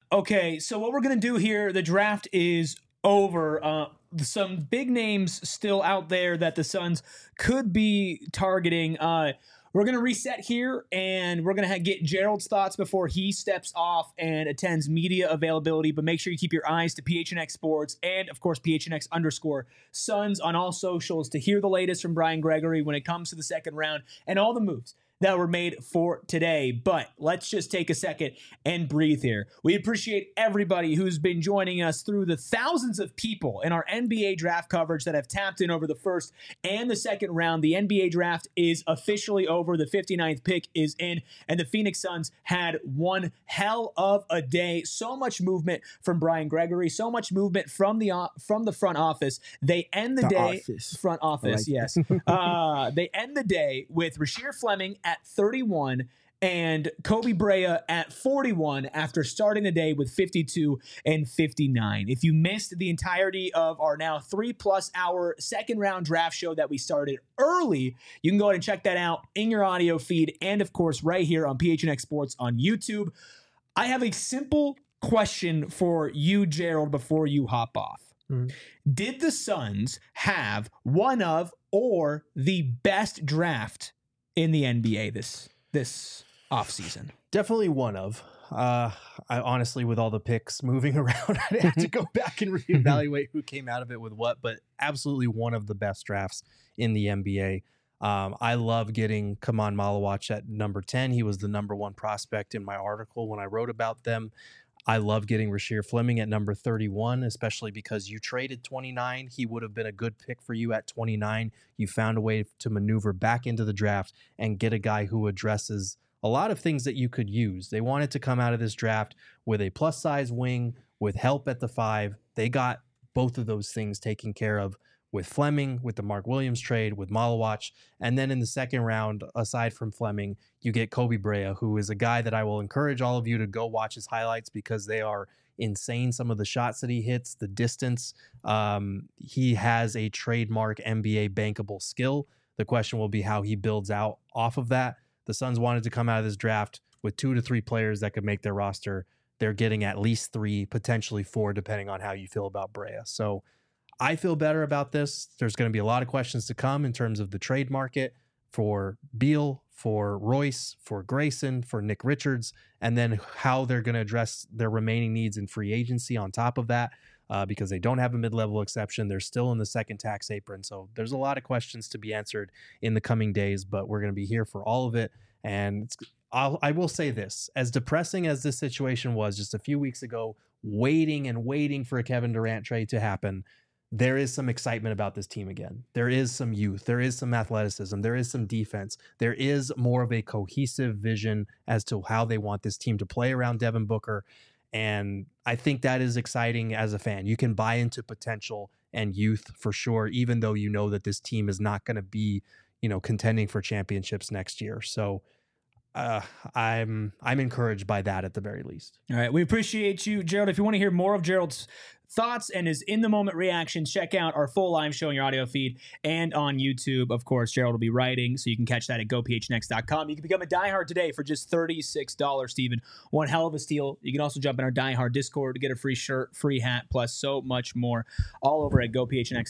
Okay, so what we're going to do here, the draft is over. Some big names still out there that the Suns could be targeting. We're going to reset here, and we're going to get Gerald's thoughts before he steps off and attends media availability. But make sure you keep your eyes to PHNX Sports and, of course, PHNX_Suns on all socials to hear the latest from Brian Gregory when it comes to the second round and all the moves that were made for today. But let's just take a second and breathe here. We appreciate everybody who's been joining us through the thousands of people in our NBA draft coverage that have tapped in over the first and the second round. The NBA draft is officially over. The 59th pick is in, and the Phoenix Suns had one hell of a day. So much movement from Brian Gregory, so much movement from the front office. They end the day front office, yes. They end the day with Rasheer Fleming at 31 and Kobe Brea at 41 after starting the day with 52 and 59. If you missed the entirety of our now 3+ hour second round draft show that we started early, you can go ahead and check that out in your audio feed and, of course, right here on PHNX Sports on YouTube. I have a simple question for you, Gerald, before you hop off. Did the Suns have one of or the best draft in the NBA this offseason? Definitely one of. I honestly, with all the picks moving around, I'd have to go back and reevaluate who came out of it with what, but absolutely one of the best drafts in the NBA. I love getting Kaman Malawach at number 10. He was the number 1 prospect in my article when I wrote about them. I love getting Rasheer Fleming at number 31, especially because you traded 29. He would have been a good pick for you at 29. You found a way to maneuver back into the draft and get a guy who addresses a lot of things that you could use. They wanted to come out of this draft with a plus-size wing, with help at the 5. They got both of those things taken care of with Fleming, with the Mark Williams trade, with Malawach. And then in the second round, aside from Fleming, you get Kobe Brea, who is a guy that I will encourage all of you to go watch his highlights because they are insane. Some of the shots that he hits, the distance. He has a trademark NBA bankable skill. The question will be how he builds out off of that. The Suns wanted to come out of this draft with 2 to 3 players that could make their roster. They're getting at least 3, potentially 4, depending on how you feel about Brea. So I feel better about this. There's going to be a lot of questions to come in terms of the trade market for Beal, for Royce, for Grayson, for Nick Richards, and then how they're going to address their remaining needs in free agency on top of that, because they don't have a mid-level exception. They're still in the second tax apron. So there's a lot of questions to be answered in the coming days, but we're going to be here for all of it. And I will say this, as depressing as this situation was just a few weeks ago, waiting for a Kevin Durant trade to happen, there is some excitement about this team again. There is some youth. There is some athleticism. There is some defense. There is more of a cohesive vision as to how they want this team to play around Devin Booker. And I think that is exciting as a fan. You can buy into potential and youth for sure, even though you know that this team is not going to be, contending for championships next year. So I'm encouraged by that at the very least. All right. We appreciate you, Gerald. If you want to hear more of Gerald's thoughts and his in-the-moment reactions, check out our full live show in your audio feed and on YouTube. Of course, Gerald will be writing, so you can catch that at gophnx.com. You can become a diehard today for just $36, Stephen. One hell of a steal. You can also jump in our diehard Discord to get a free shirt, free hat, plus so much more, all over at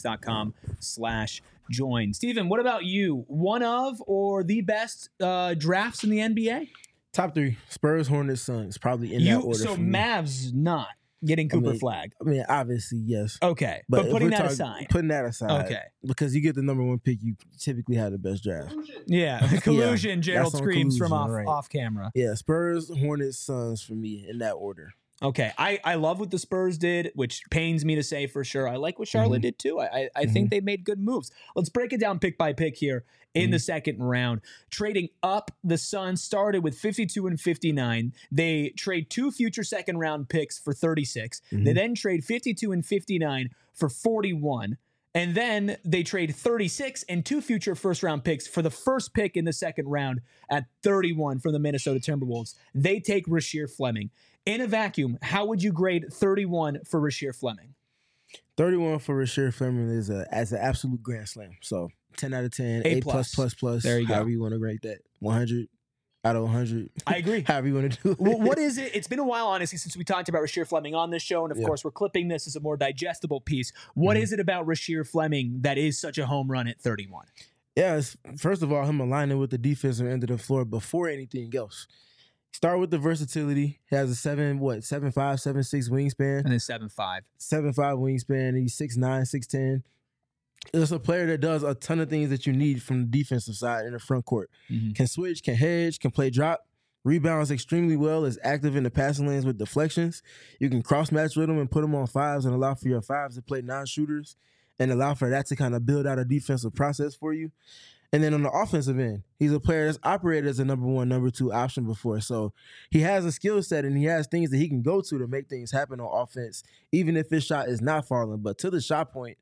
gophnx.com/join. Stephen, what about you? One of or the best drafts in the NBA? Top 3, Spurs, Hornets, Suns, probably in that order. So for me. Mavs not getting Cooper Flag. I mean, obviously, yes. Okay, but putting that aside. Okay. Because you get the number 1 pick, you typically have the best draft. Yeah, collusion, yeah, Gerald screams from off camera. Yeah, Spurs, Hornets, Suns for me in that order. Okay, I love what the Spurs did, which pains me to say for sure. I like what Charlotte did too. I think they made good moves. Let's break it down pick by pick here in the second round. Trading up, the Suns started with 52 and 59. They trade 2 future second round picks for 36. They then trade 52 and 59 for 41. And then they trade 36 and 2 future first round picks for the first pick in the second round at 31 from the Minnesota Timberwolves. They take Rasheer Fleming. In a vacuum, how would you grade 31 for Rasheer Fleming? 31 for Rasheer Fleming is as an absolute grand slam. So 10 out of 10, A+++. There you go. However you want to rate that. 100. out of 100. I agree. However you want to do it. Well, what is it? It's been a while, honestly, since we talked about Rasheer Fleming on this show. And, of Yeah. course, we're clipping this as a more digestible piece. What Mhm. is it about Rasheer Fleming that is such a home run at 31? Yeah, first of all, him aligning with the defensive end of the floor before anything else. Start with the versatility. He has a 7'5", 7'6" wingspan. And then 7'5". 7'5" wingspan. He's 6'9", 6'10". It's a player that does a ton of things that you need from the defensive side in the front court. Mhm. Can switch, can hedge, can play drop, rebounds extremely well, is active in the passing lanes with deflections. You can cross-match with him and put him on fives and allow for your fives to play non-shooters and allow for that to kind of build out a defensive process for you. And then on the offensive end, he's a player that's operated as a number 1, number 2 option before. So he has a skill set and he has things that he can go to make things happen on offense, even if his shot is not falling. But to the shot point,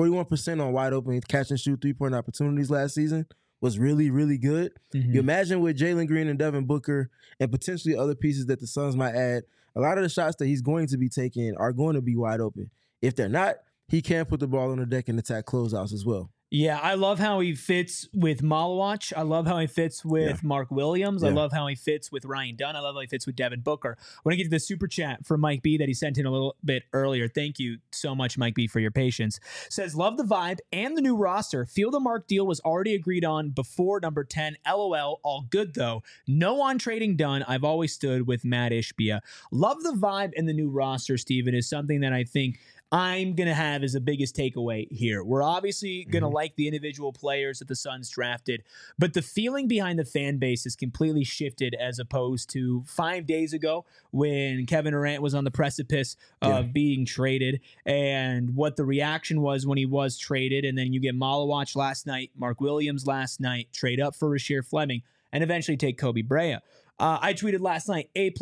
41% on wide open catch and shoot 3-point opportunities last season was really, really good. Mhm. You imagine with Jalen Green and Devin Booker and potentially other pieces that the Suns might add, a lot of the shots that he's going to be taking are going to be wide open. If they're not, he can put the ball on the deck and attack closeouts as well. Yeah, I love how he fits with Malawach. I love how he fits with Mark Williams. I Yeah. love how he fits with Ryan Dunn. I love how he fits with Devin Booker. I want to get to the super chat from Mike B that he sent in a little bit earlier. Thank you so much, Mike B, for your patience. Says, love the vibe and the new roster. Feel the Mark deal was already agreed on before number 10. LOL. All good, though. No on trading Dunn. I've always stood with Matt Ishbia. Love the vibe and the new roster, Steven, is something that I think I'm going to have as the biggest takeaway here. We're obviously going to like the individual players that the Suns drafted, but the feeling behind the fan base has completely shifted as opposed to 5 days ago when Kevin Durant was on the precipice of being traded and what the reaction was when he was traded. And then you get Malawach last night, Mark Williams last night, trade up for Rasheer Fleming, and eventually take Kobe Brea. I tweeted last night, A++++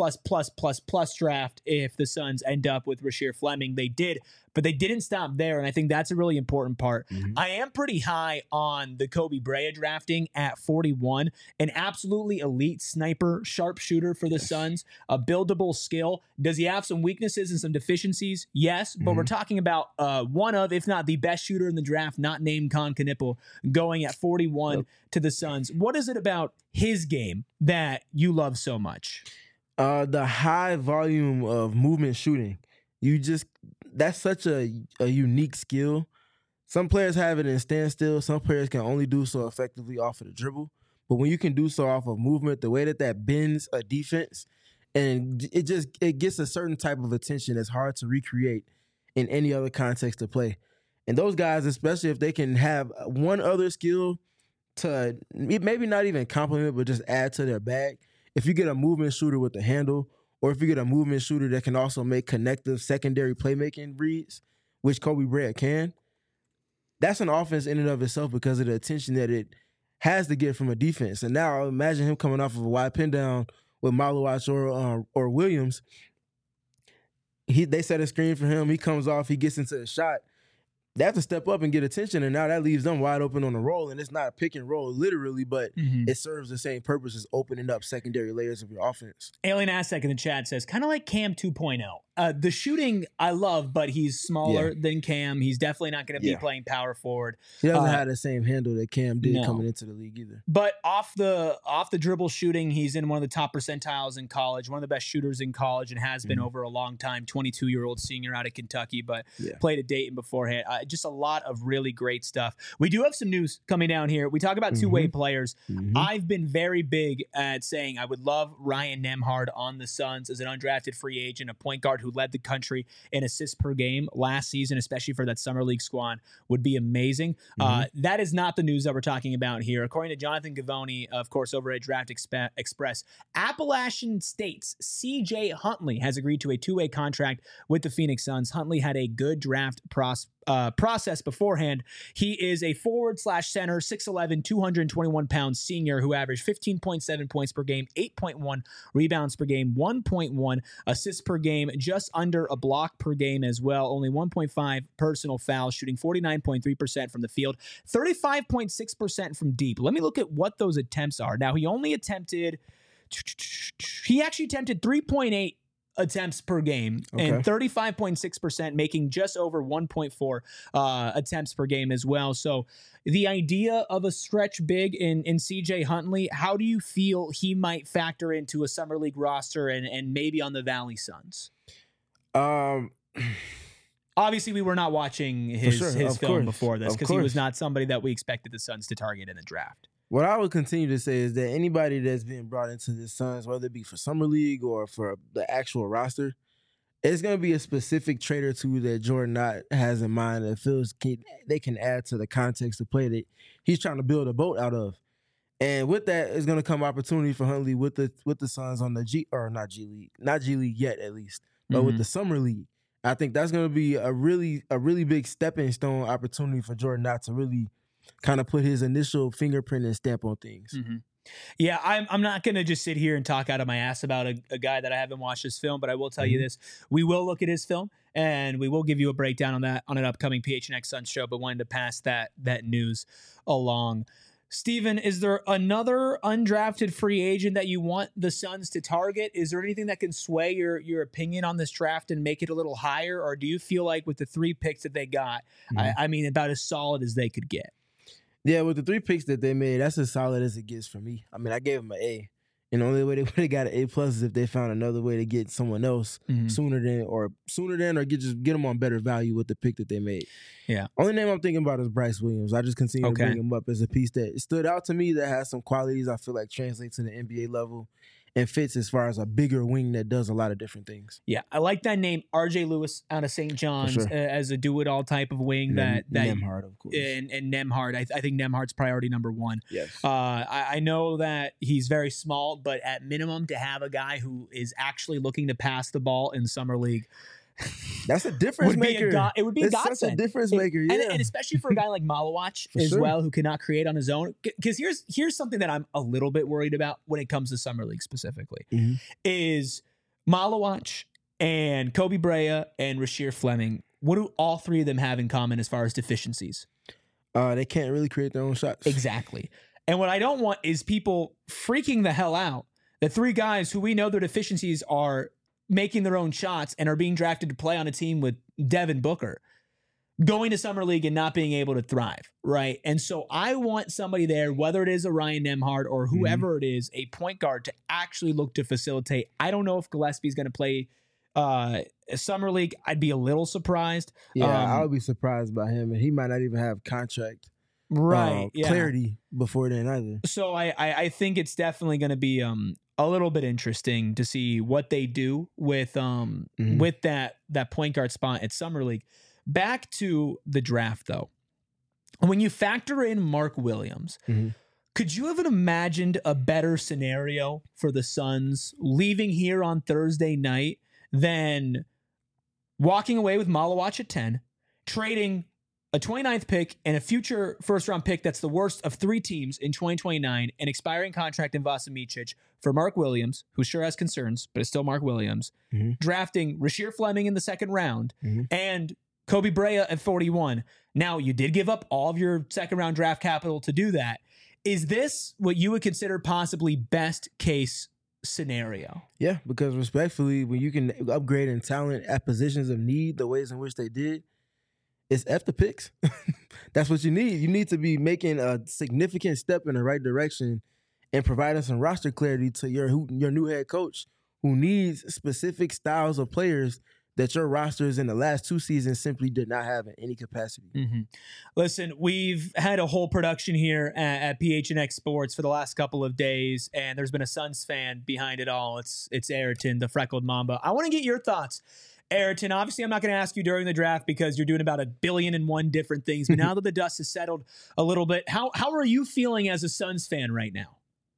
draft if the Suns end up with Rasheer Fleming. They did, but they didn't stop there, and I think that's a really important part. I am pretty high on the Kobe Brea drafting at 41, an absolutely elite sniper, sharpshooter for the Suns, a buildable skill. Does he have some weaknesses and some deficiencies? Yes, but we're talking about one of, if not the best shooter in the draft, not named Kon Knipple, going at 41 to the Suns. What is it about his game that you love so much? The high volume of movement shooting. That's such a unique skill. Some players have it in standstill. Some players can only do so effectively off of the dribble. But when you can do so off of movement, the way that bends a defense, and it gets a certain type of attention that's hard to recreate in any other context to play. And those guys, especially if they can have one other skill to maybe not even complement, but just add to their bag. If you get a movement shooter with the handle, or if you get a movement shooter that can also make connective secondary playmaking reads, which Kobe Brea can, that's an offense in and of itself because of the attention that it has to get from a defense. And now imagine him coming off of a wide pin down with Malawach or Williams. They set a screen for him. He comes off. He gets into the shot. They have to step up and get attention, and now that leaves them wide open on the roll, and it's not a pick and roll literally, but it serves the same purpose as opening up secondary layers of your offense. Alien Aztec in the chat says, kind of like Cam 2.0. The shooting I love, but he's smaller than Cam. He's definitely not going to be playing power forward. He doesn't have the same handle that Cam did coming into the league either. But off the dribble shooting, he's in one of the top percentiles in college, one of the best shooters in college, and has been over a long time. 22-year-old senior out of Kentucky, but played at Dayton beforehand. Just a lot of really great stuff. We do have some news coming down here. We talk about two-way players. I've been very big at saying I would love Ryan Nembhard on the Suns as an undrafted free agent, a point guard who led the country in assists per game last season, especially for that summer league squad, would be amazing. That is not the news that we're talking about here. According to Jonathan Gavoni, of course, over at Draft Express, Appalachian State's CJ Huntley has agreed to a two-way contract with the Phoenix Suns. Huntley had a good draft process beforehand. He is a forward/center, 6'11", 221-pound senior who averaged 15.7 points per game, 8.1 rebounds per game, 1.1 assists per game, just under a block per game as well, only 1.5 personal fouls, shooting 49.3% from the field, 35.6% from deep. Let me look at what those attempts are. Now, he actually attempted 3.8 attempts per game and 35.6%, making just over 1.4 attempts per game as well. So the idea of a stretch big in CJ Huntley, how do you feel he might factor into a Summer League roster and maybe on the Valley Suns? Obviously, we were not watching his film before this because he was not somebody that we expected the Suns to target in the draft. What I would continue to say is that anybody that's being brought into the Suns, whether it be for Summer League or for the actual roster, it's going to be a specific trait or two that Jordan Knott has in mind that feels they can add to the context of play that he's trying to build a boat out of. And with that is going to come opportunity for Huntley with the Suns on the not G League yet at least, but with the Summer League. I think that's going to be a really big stepping stone opportunity for Jordan Knott to really kind of put his initial fingerprint and stamp on things. Yeah, I'm not going to just sit here and talk out of my ass about a guy that I haven't watched his film, but I will tell you this. We will look at his film, and we will give you a breakdown on that on an upcoming PHNX Suns show, but wanted to pass that news along. Steven, is there another undrafted free agent that you want the Suns to target? Is there anything that can sway your opinion on this draft and make it a little higher, or do you feel like with the 3 picks that they got, I mean, about as solid as they could get? Yeah, with the 3 picks that they made, that's as solid as it gets for me. I mean, I gave them an A. And the only way they would have got an A+ is if they found another way to get someone else sooner than or get them on better value with the pick that they made. Yeah. Only name I'm thinking about is Bryce Williams. I just continue to bring him up as a piece that stood out to me that has some qualities I feel like translate to the NBA level and fits as far as a bigger wing that does a lot of different things. Yeah, I like that name, R.J. Lewis out of St. John's, as a do-it-all type of wing. That Nembhard, of course. And Nembhard. I think Nembhard's priority number 1. Yes. I know that he's very small, but at minimum to have a guy who is actually looking to pass the ball in Summer League, that's a difference maker. It would be a godsend. Such a difference maker, yeah. And especially for a guy like Malawach as well, who cannot create on his own. Because here's something that I'm a little bit worried about when it comes to Summer League specifically, is Malawach and Kobe Brea and Rasheer Fleming. What do all 3 of them have in common as far as deficiencies? They can't really create their own shots. Exactly. And what I don't want is people freaking the hell out that 3 guys who we know their deficiencies are making their own shots and are being drafted to play on a team with Devin Booker, going to Summer League and not being able to thrive, right? And so I want somebody there, whether it is a Ryan Nembhard or whoever it is, a point guard to actually look to facilitate. I don't know if Gillespie's going to play Summer League. I'd be a little surprised. Yeah, I would be surprised by him, and he might not even have contract clarity before then either. So I think it's definitely going to be a little bit interesting to see what they do with with that point guard spot at Summer League. Back to the draft though. When you factor in Mark Williams, could you have imagined a better scenario for the Suns leaving here on Thursday night than walking away with Malawach at 10, trading a 29th pick and a future first-round pick that's the worst of 3 teams in 2029, an expiring contract in Vasa Micic for Mark Williams, who sure has concerns, but is still Mark Williams, drafting Rasheer Fleming in the 2nd round, and Kobe Brea at 41. Now, you did give up all of your 2nd-round draft capital to do that. Is this what you would consider possibly best-case scenario? Yeah, because respectfully, when you can upgrade in talent at positions of need the ways in which they did, it's F the picks. That's what you need. You need to be making a significant step in the right direction and providing some roster clarity to your new head coach who needs specific styles of players that your rosters in the last 2 seasons simply did not have in any capacity. Listen, we've had a whole production here at PHNX Sports for the last couple of days, and there's been a Suns fan behind it all. It's Ayrton, the freckled Mamba. I want to get your thoughts. Ayrton, obviously I'm not going to ask you during the draft because you're doing about 1,000,000,001 different things, but now that the dust has settled a little bit, how are you feeling as a Suns fan right now?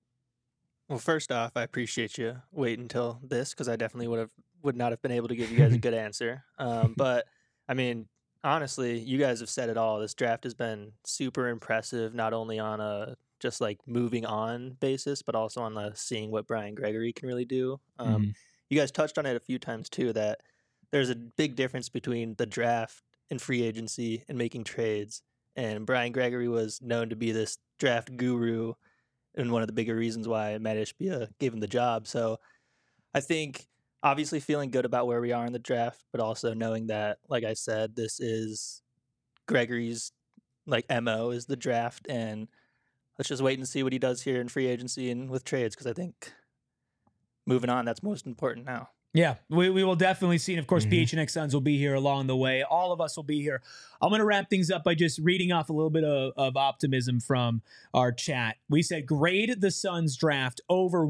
Well, first off, I appreciate you waiting until this because I definitely would not have been able to give you guys a good answer. But, I mean, honestly, you guys have said it all. This draft has been super impressive, not only on a just like moving on basis, but also on the seeing what Brian Gregory can really do. You guys touched on it a few times, too, that there's a big difference between the draft and free agency and making trades. And Brian Gregory was known to be this draft guru and one of the bigger reasons why Matt Ishbia gave him the job. So I think obviously feeling good about where we are in the draft, but also knowing that, like I said, this is Gregory's like MO is the draft, and let's just wait and see what he does here in free agency and with trades, because I think moving on, that's most important now. Yeah, we will definitely see. And of course, PHNX Suns will be here along the way. All of us will be here. I'm going to wrap things up by just reading off a little bit of optimism from our chat. We said, grade the Suns draft over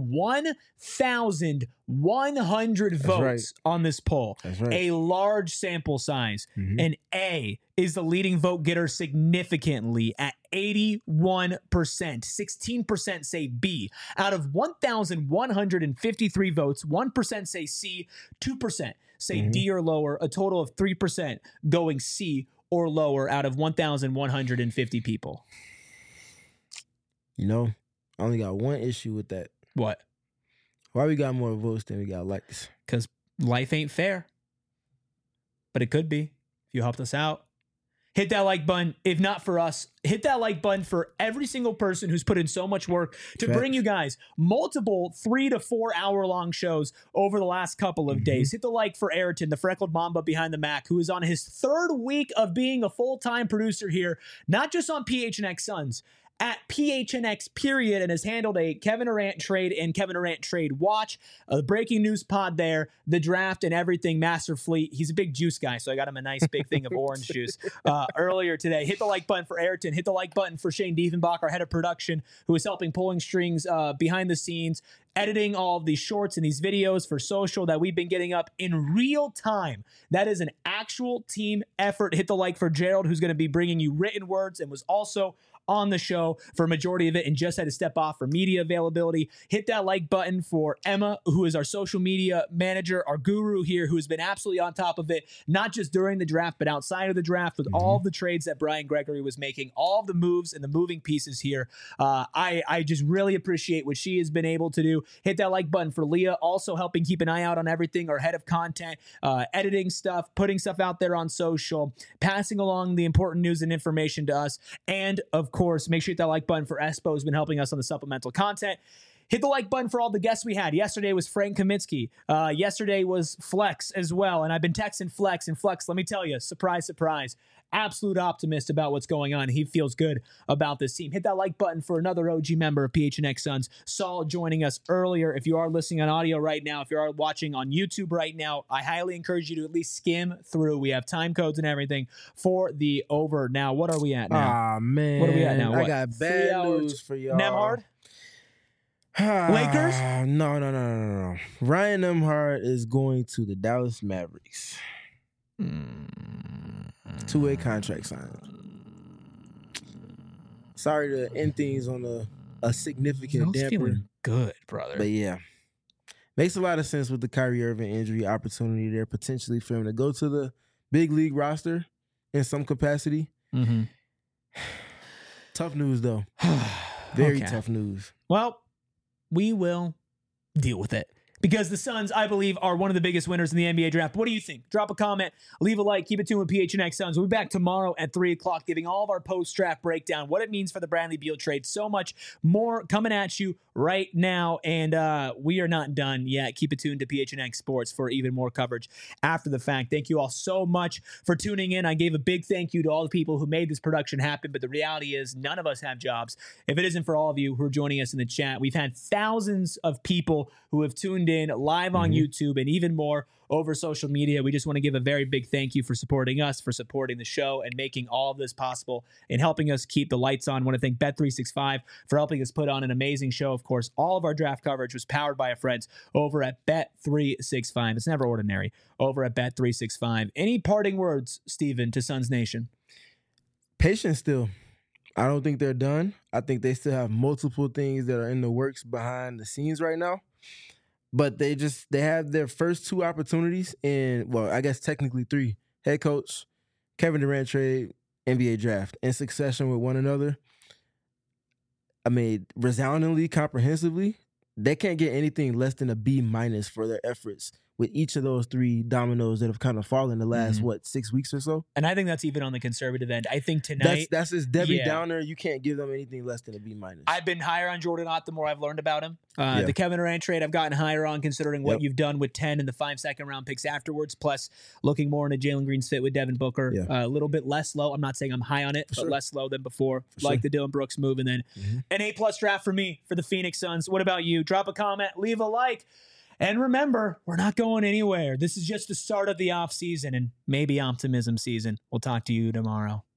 1,100 votes on this poll. That's right. A large sample size. An A is the leading vote getter significantly at 81%. 16% say B. Out of 1,153 votes, 1% say C, 2% say D or lower, a total of 3% going C or lower out of 1,150 people. You know, I only got one issue with that. What? Why we got more votes than we got likes? Because life ain't fair. But it could be if you helped us out. Hit that like button. If not for us, hit that like button for every single person who's put in so much work to bring you guys multiple 3 to 4 hour long shows over the last couple of days. Hit the like for Ayrton, the freckled Mamba behind the Mac, who is on his 3rd week of being a full-time producer here, not just on PHNX Suns, at PHNX period, and has handled a Kevin Durant trade and Kevin Durant trade watch, a breaking news pod there, the draft and everything, Master Fleet. He's a big juice guy, so I got him a nice big thing of orange juice earlier today. Hit the like button for Ayrton. Hit the like button for Shane Diefenbach, our head of production, who is helping pulling strings behind the scenes, editing all of these shorts and these videos for social that we've been getting up in real time. That is an actual team effort. Hit the like for Gerald, who's going to be bringing you written words and was also on the show for a majority of it and just had to step off for media availability. Hit that like button for Emma, who is our social media manager, our guru here, who has been absolutely on top of it, not just during the draft, but outside of the draft with all of the trades that Brian Gregory was making, all of the moves and the moving pieces here. I just really appreciate what she has been able to do. Hit that like button for Leah, also helping keep an eye out on everything, our head of content, editing stuff, putting stuff out there on social, passing along the important news and information to us. And of course, make sure you hit that like button for Espo, who's been helping us on the supplemental content. Hit the like button for all the guests we had. Yesterday was Frank Kaminsky. Yesterday was Flex as well. And I've been texting Flex. And Flex, let me tell you, surprise, surprise, absolute optimist about what's going on. He feels good about this team. Hit that like button for another OG member of PHNX Suns, Saul, joining us earlier. If you are listening on audio right now, if you are watching on YouTube right now, I highly encourage you to at least skim through. We have time codes and everything for the over. Now, what are we at now? Ah, man. What are we at now? I What? got 3 bad hours? news for y'all. Nemhard? Lakers? No. Ryan Nemhard is going to the Dallas Mavericks. 2-way contract signing. Sorry to end things on a significant damper. Feeling good, brother. But yeah, makes a lot of sense with the Kyrie Irving injury opportunity there, potentially for him to go to the big league roster in some capacity. Tough news, though. Very tough news. Well, we will deal with it. Because the Suns, I believe, are one of the biggest winners in the NBA draft. What do you think? Drop a comment, leave a like, keep it tuned with PHNX Suns. We'll be back tomorrow at 3 o'clock giving all of our post-draft breakdown, what it means for the Bradley Beal trade. So much more coming at you right now, and we are not done yet. Keep it tuned to PHNX Sports for even more coverage after the fact. Thank you all so much for tuning in. I gave a big thank you to all the people who made this production happen, but the reality is none of us have jobs. If it isn't for all of you who are joining us in the chat, we've had thousands of people who have tuned in live on YouTube and even more over social media. We just want to give a very big thank you for supporting us, for supporting the show, and making all of this possible and helping us keep the lights on. I want to thank Bet365 for helping us put on an amazing show. Of course, all of our draft coverage was powered by our friends over at Bet365. It's never ordinary over at Bet365. Any parting words, Steven, to Suns Nation? Patience still. I don't think they're done. I think they still have multiple things that are in the works behind the scenes right now. But they have their first 2 opportunities in, well, I guess technically 3. Head coach, Kevin Durant trade, NBA draft in succession with one another. I mean, resoundingly, comprehensively, they can't get anything less than a B- for their efforts with each of those 3 dominoes that have kind of fallen the last 6 weeks or so. And I think that's even on the conservative end. I think tonight That's his Debbie Downer. You can't give them anything less than a B-. I've been higher on Jordan Ott the more I've learned about him. The Kevin Durant trade I've gotten higher on considering what you've done with 10 and the 5 second-round picks afterwards, plus looking more into Jalen Green's fit with Devin Booker. A little bit less low. I'm not saying I'm high on it, but less low than before. Like the Dylan Brooks move. And then an A-plus draft for me for the Phoenix Suns. What about you? Drop a comment, leave a like. And remember, we're not going anywhere. This is just the start of the off season and maybe optimism season. We'll talk to you tomorrow.